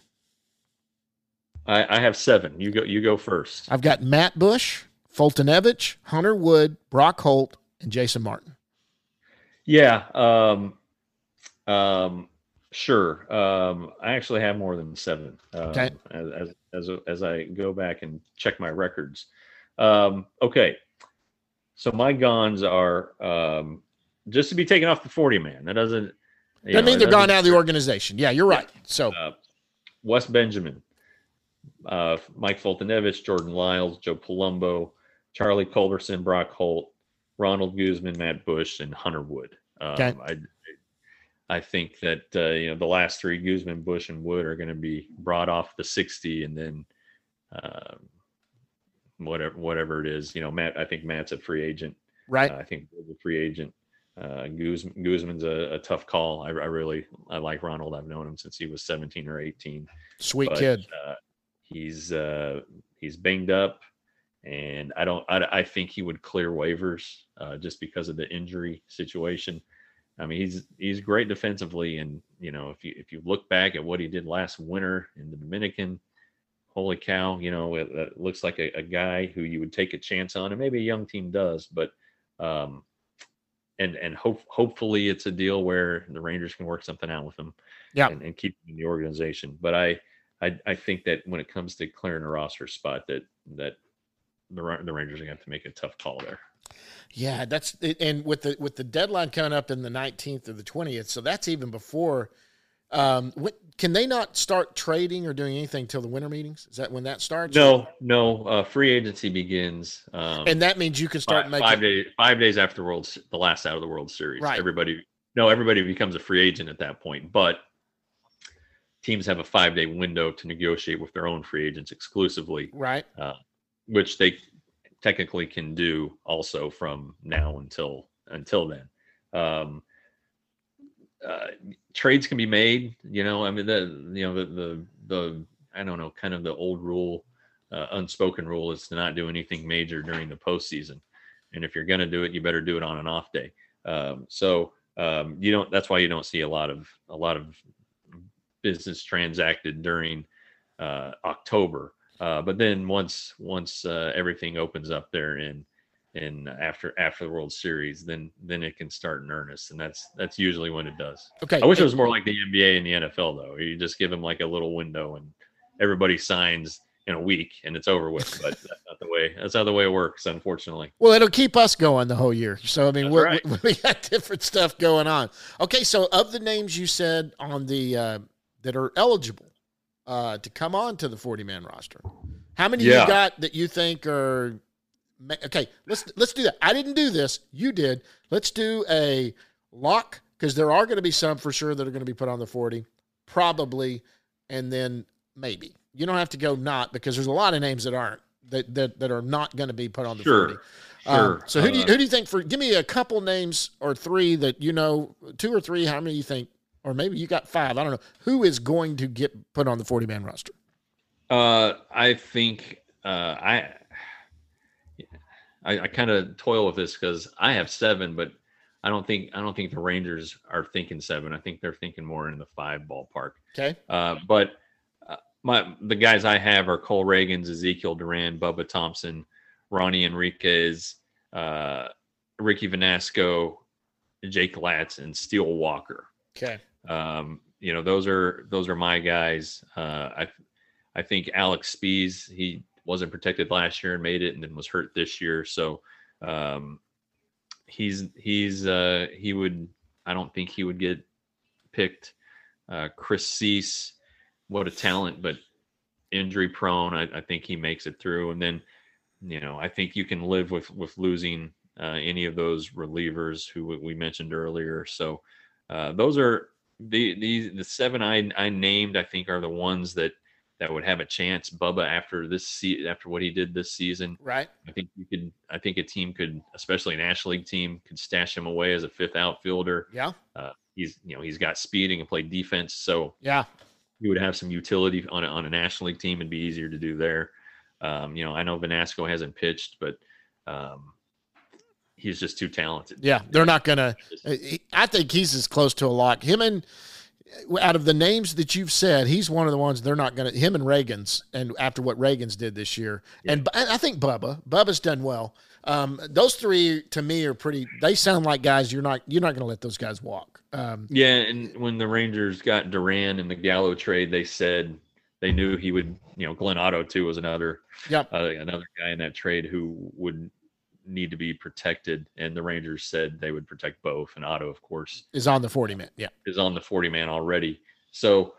I have 7. You go first. I've got Matt Bush, Fultonevich, Hunter Wood, Brock Holt, and Jason Martin. Yeah. Sure. I actually have more than 7. Okay. As I go back and check my records. Okay. So my gons are just to be taken off the 40-man. That doesn't. That means they're gone out of the organization. Yeah, you're right. So Wes Benjamin, Mike Fultonevich, Jordan Lyles, Joe Palumbo, Charlie Culberson, Brock Holt, Ronald Guzman, Matt Bush, and Hunter Wood. Okay. I think that the last 3, Guzman, Bush, and Wood, are going to be brought off the 60, and then whatever it is, Matt. I think Matt's a free agent, right? I think Wood's a free agent. Guzman's a tough call. I like Ronald. I've known him since he was 17 or 18. Sweet kid. He's banged up, and I think he would clear waivers just because of the injury situation. I mean, he's great defensively, and if you look back at what he did last winter in the Dominican, holy cow, it looks like a guy who you would take a chance on, and maybe a young team does, but hopefully it's a deal where the Rangers can work something out with him, and keep him in the organization. But I think that when it comes to clearing a roster spot, that the Rangers are going to have to make a tough call there. Yeah, that's and with the deadline coming up in the 19th or the 20th, so that's even before. Can they not start trading or doing anything till the winter meetings? Is that when that starts? No. Free agency begins, And that means you can start making 5 days after the last out of the World Series. Right. Everybody becomes a free agent at that point, but teams have a 5-day window to negotiate with their own free agents exclusively, right, which they technically can do also from now until then. Trades can be made, I mean, the I don't know, kind of the old rule, unspoken rule is to not do anything major during the postseason. And if you're going to do it, you better do it on an off day. That's why you don't see a lot of business transacted during October. But then once everything opens up there in after the World Series, then it can start in earnest, and that's usually when it does. Okay. I wish it was more like the NBA and the NFL though. You just give them like a little window, and everybody signs in a week, and it's over with. But that's not the way it works, unfortunately. Well, it'll keep us going the whole year. So I mean, Right. we got different stuff going on. Okay, so of the names you said on the that are eligible to come on to the 40-man roster, how many you got that you think are? Okay, let's do that. I didn't do this. You did. Let's do a lock, because there are going to be some for sure that are going to be put on the 40, probably, and then maybe. You don't have to go not, because there's a lot of names that aren't that are not going to be put on the 40. Sure. So who do you think give me a couple names or three that 2 or 3, how many you think, or maybe you got 5, I don't know, who is going to get put on the 40-man roster? I think I kind of toil with this because I have 7, but I don't think the Rangers are thinking 7. I think they're thinking more in the 5 ballpark. Okay. But the guys I have are Cole Ragans, Ezekiel Duran, Bubba Thompson, Ronnie Enriquez, Ricky Vanasco, Jake Latz, and Steele Walker. Okay. Those are my guys. I think Alex Spees, he wasn't protected last year and made it, and then was hurt this year. So he would. I don't think he would get picked. Chris Cease, what a talent, but injury prone. I think he makes it through. And then, I think you can live with losing any of those relievers who we mentioned earlier. So those are the 7 I named. I think are the ones that would have a chance. Bubba after what he did this season, right? I think a team could, especially a National League team, could stash him away as a 5th outfielder. Yeah. He's got speed and can play defense, so yeah, he would have some utility on a National League team and be easier to do there. I know Vanasco hasn't pitched, but he's just too talented. Yeah, they're not gonna. I think he's as close to a lock. Him and out of the names that you've said, he's one of the ones they're not going to. Him and Reagans, and after what Reagans did this year, and I think Bubba's done well. Those 3 to me are pretty. They sound like guys you're not going to let those guys walk. And when the Rangers got Duran in the Gallo trade, they said they knew he would. Glenn Otto too was another guy in that trade who would need to be protected, and the Rangers said they would protect both, and Otto, of course, is on the 40-man. Yeah, is on the 40-man already. So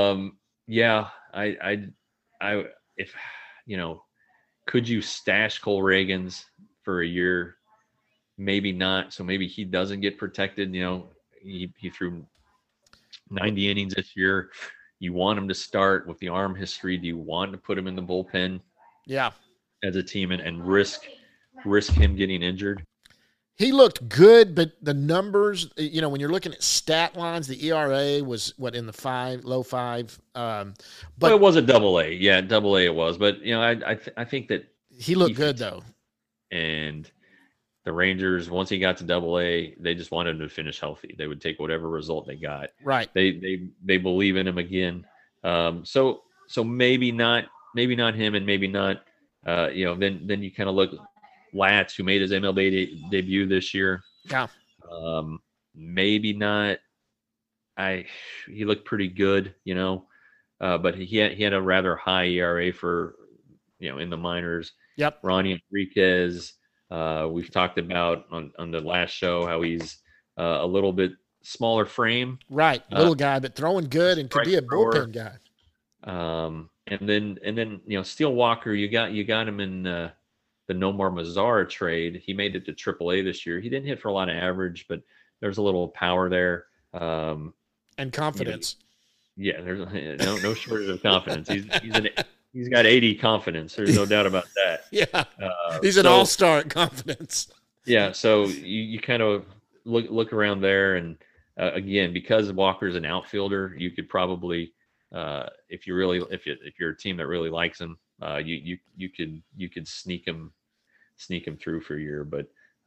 could you stash Cole Ragans for a year? Maybe not. So maybe he doesn't get protected. He threw 90 innings this year. You want him to start with the arm history? Do you want to put him in the bullpen? Yeah, as a team and risk him getting injured? He looked good, but the numbers, when you're looking at stat lines, the ERA was in the low 5. But it was a AA. Yeah, AA it was. But I think that he looked good though. And the Rangers, once he got to AA, they just wanted him to finish healthy. They would take whatever result they got. Right. They believe in him again. So maybe not him, and maybe not. Then you kind of look. Latz, who made his MLB debut this year. Yeah. Maybe not. He looked pretty good, but he had a rather high ERA for, in the minors. Yep. Ronnie Enriquez, We've talked about on the last show how he's a little bit smaller frame, right? Little guy, but throwing good and could be a bullpen guy. And then Steele Walker, you got him in the Nomar Mazara trade. He made it to AAA this year. He didn't hit for a lot of average, but there's a little power there. And confidence. There's no shortage of confidence. He's got 80 confidence. There's no doubt about that. Yeah, he's an all-star at confidence. Yeah, so you kind of look around there, and again, because Walker's an outfielder, you could probably, if you're a team that really likes him, you could sneak him through for a year. But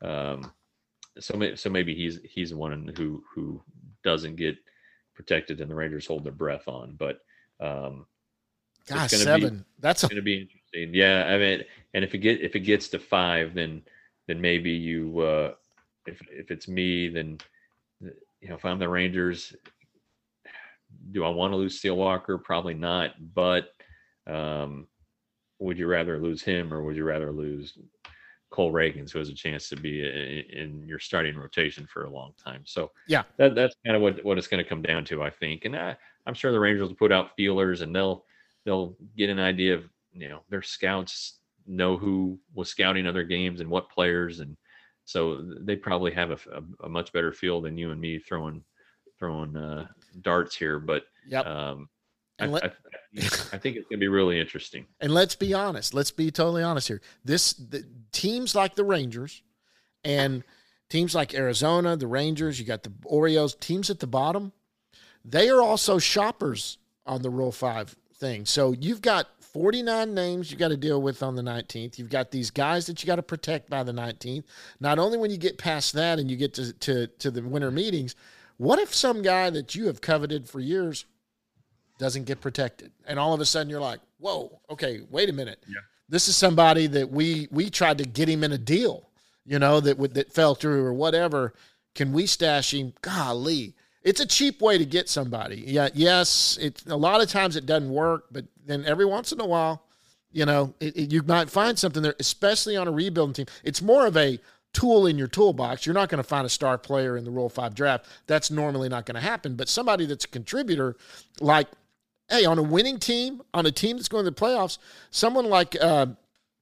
so maybe he's one who doesn't get protected and the Rangers hold their breath on. But gosh, 7. That's going to be interesting. Yeah, I mean, and if it gets to 5, then maybe you, if it's me, then if I'm the Rangers, do I want to lose Steele Walker? Probably not. But would you rather lose him, or would you rather lose Cole Reagans, who has a chance to be in your starting rotation for a long time? So yeah, that's kind of what it's going to come down to, I think. And I'm sure the Rangers will put out feelers, and they'll get an idea of, their scouts know who was scouting other games and what players, and so they probably have a much better feel than you and me throwing darts here. But yep. I think it's going to be really interesting. And let's be honest. Let's be totally honest here. Teams like the Rangers and teams like Arizona, the Rangers, you got the Orioles, teams at the bottom, they are also shoppers on the Rule 5 thing. So you've got 49 names you got to deal with on the 19th. You've got these guys that you got to protect by the 19th. Not only when you get past that and you get to the winter meetings, what if some guy that you have coveted for years doesn't get protected? And all of a sudden you're like, whoa, okay, wait a minute. Yeah. This is somebody that we tried to get him in a deal, that fell through or whatever. Can we stash him? Golly. It's a cheap way to get somebody. Yeah, yes, a lot of times it doesn't work, but then every once in a while, you might find something there, especially on a rebuilding team. It's more of a tool in your toolbox. You're not going to find a star player in the Rule 5 draft. That's normally not going to happen. But somebody that's a contributor, like, hey, on a winning team, on a team that's going to the playoffs, someone like Delano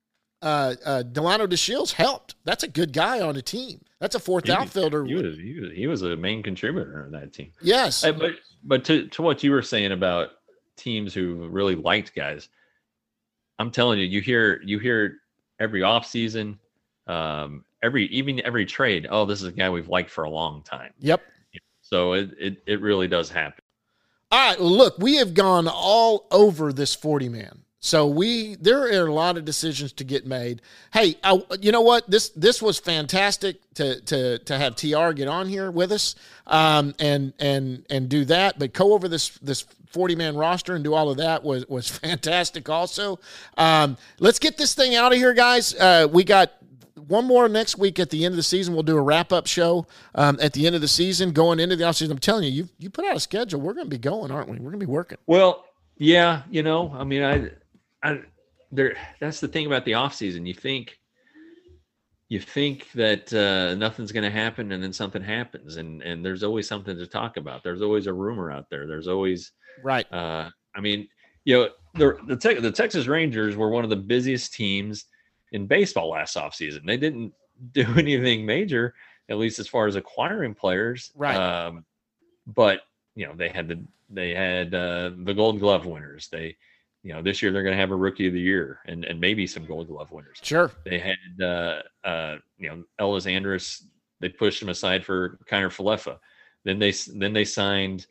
DeShields helped. That's a good guy on a team. That's a fourth outfielder. He was a main contributor on that team. Yes. But to what you were saying about teams who really liked guys, I'm telling you, you hear every offseason, every trade, oh, this is a guy we've liked for a long time. Yep. So it really does happen. All right, well, look, we have gone all over this 40-man. So there are a lot of decisions to get made. Hey, you know what? This was fantastic to have TR get on here with us and do that. But go over this 40-man roster and do all of that was fantastic also. Let's get this thing out of here, guys. We got one more next week at the end of the season. We'll do a wrap-up show at the end of the season, going into the offseason. I'm telling you, you put out a schedule. We're going to be going, aren't we? We're going to be working. Well, yeah, I mean, that's the thing about the offseason. You think that nothing's going to happen, and then something happens, and there's always something to talk about. There's always a rumor out there. There's always right. I mean, the Texas Rangers were one of the busiest teams in baseball last offseason. They didn't do anything major, at least as far as acquiring players. Right. But they had the Gold Glove winners. This year they're going to have a Rookie of the Year and maybe some Gold Glove winners. Sure. They had Ellis Andrus. They pushed him aside for Kiner Falefa. Then they signed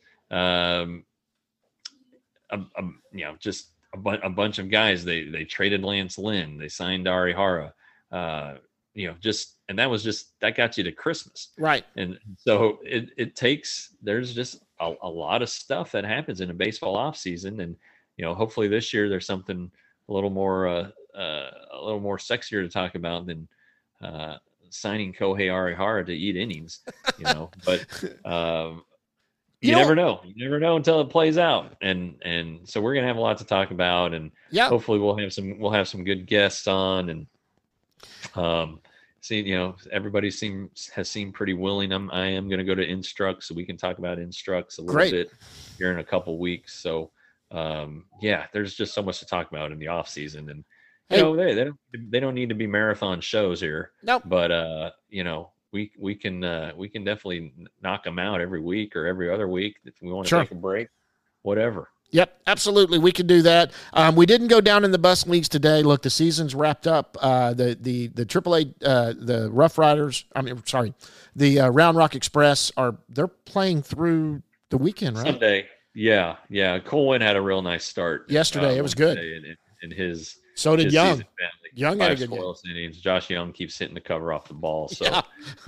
just a bunch of guys. They traded Lance Lynn. They signed Ari Hara. And that got you to Christmas. Right. And so there's just a lot of stuff that happens in a baseball offseason. And, hopefully this year there's something a little more sexier to talk about than signing Kohei Arihara to eat innings, but you never know. You never know until it plays out. And so we're going to have a lot to talk about, and hopefully we'll have some good guests on, and everybody has seemed pretty willing. I am going to go to Instruct, so we can talk about Instructs a little Great. bit here in a couple weeks. So, there's just so much to talk about in the off season, and they don't need to be marathon shows here. Nope. But we can definitely knock them out every week or every other week if we want to take a break, whatever. Yep, absolutely. We can do that. We didn't go down in the bus leagues today. Look, the season's wrapped up. The AAA, the Rough Riders. The Round Rock Express they're playing through the weekend, right? Sunday. Yeah. Colwyn had a real nice start yesterday. It was good. In his so did Young. Young had a good innings. Josh Young keeps hitting the cover off the ball. So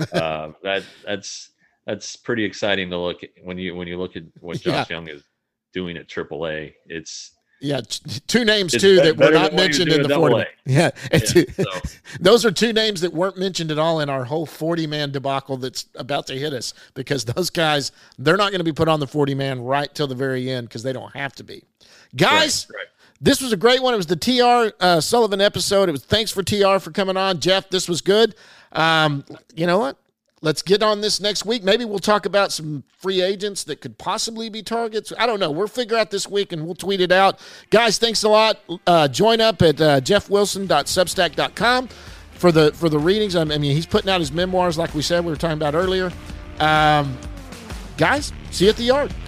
that's pretty exciting to look at when you look at what Josh Young is doing at AAA. It's two names too that were not mentioned in the 40. Yeah, those are two names that weren't mentioned at all in our whole 40-man debacle that's about to hit us, because those guys, they're not going to be put on the 40-man right till the very end because they don't have to be. Guys, right. This was a great one. It was the TR Sullivan episode. It was thanks for TR for coming on. Jeff, this was good. You know what? Let's get on this next week. Maybe we'll talk about some free agents that could possibly be targets. I don't know. We'll figure out this week, and we'll tweet it out. Guys, thanks a lot. Join up at jeffwilson.substack.com for the readings. I mean, he's putting out his memoirs like we said we were talking about earlier. Guys, see you at the yard.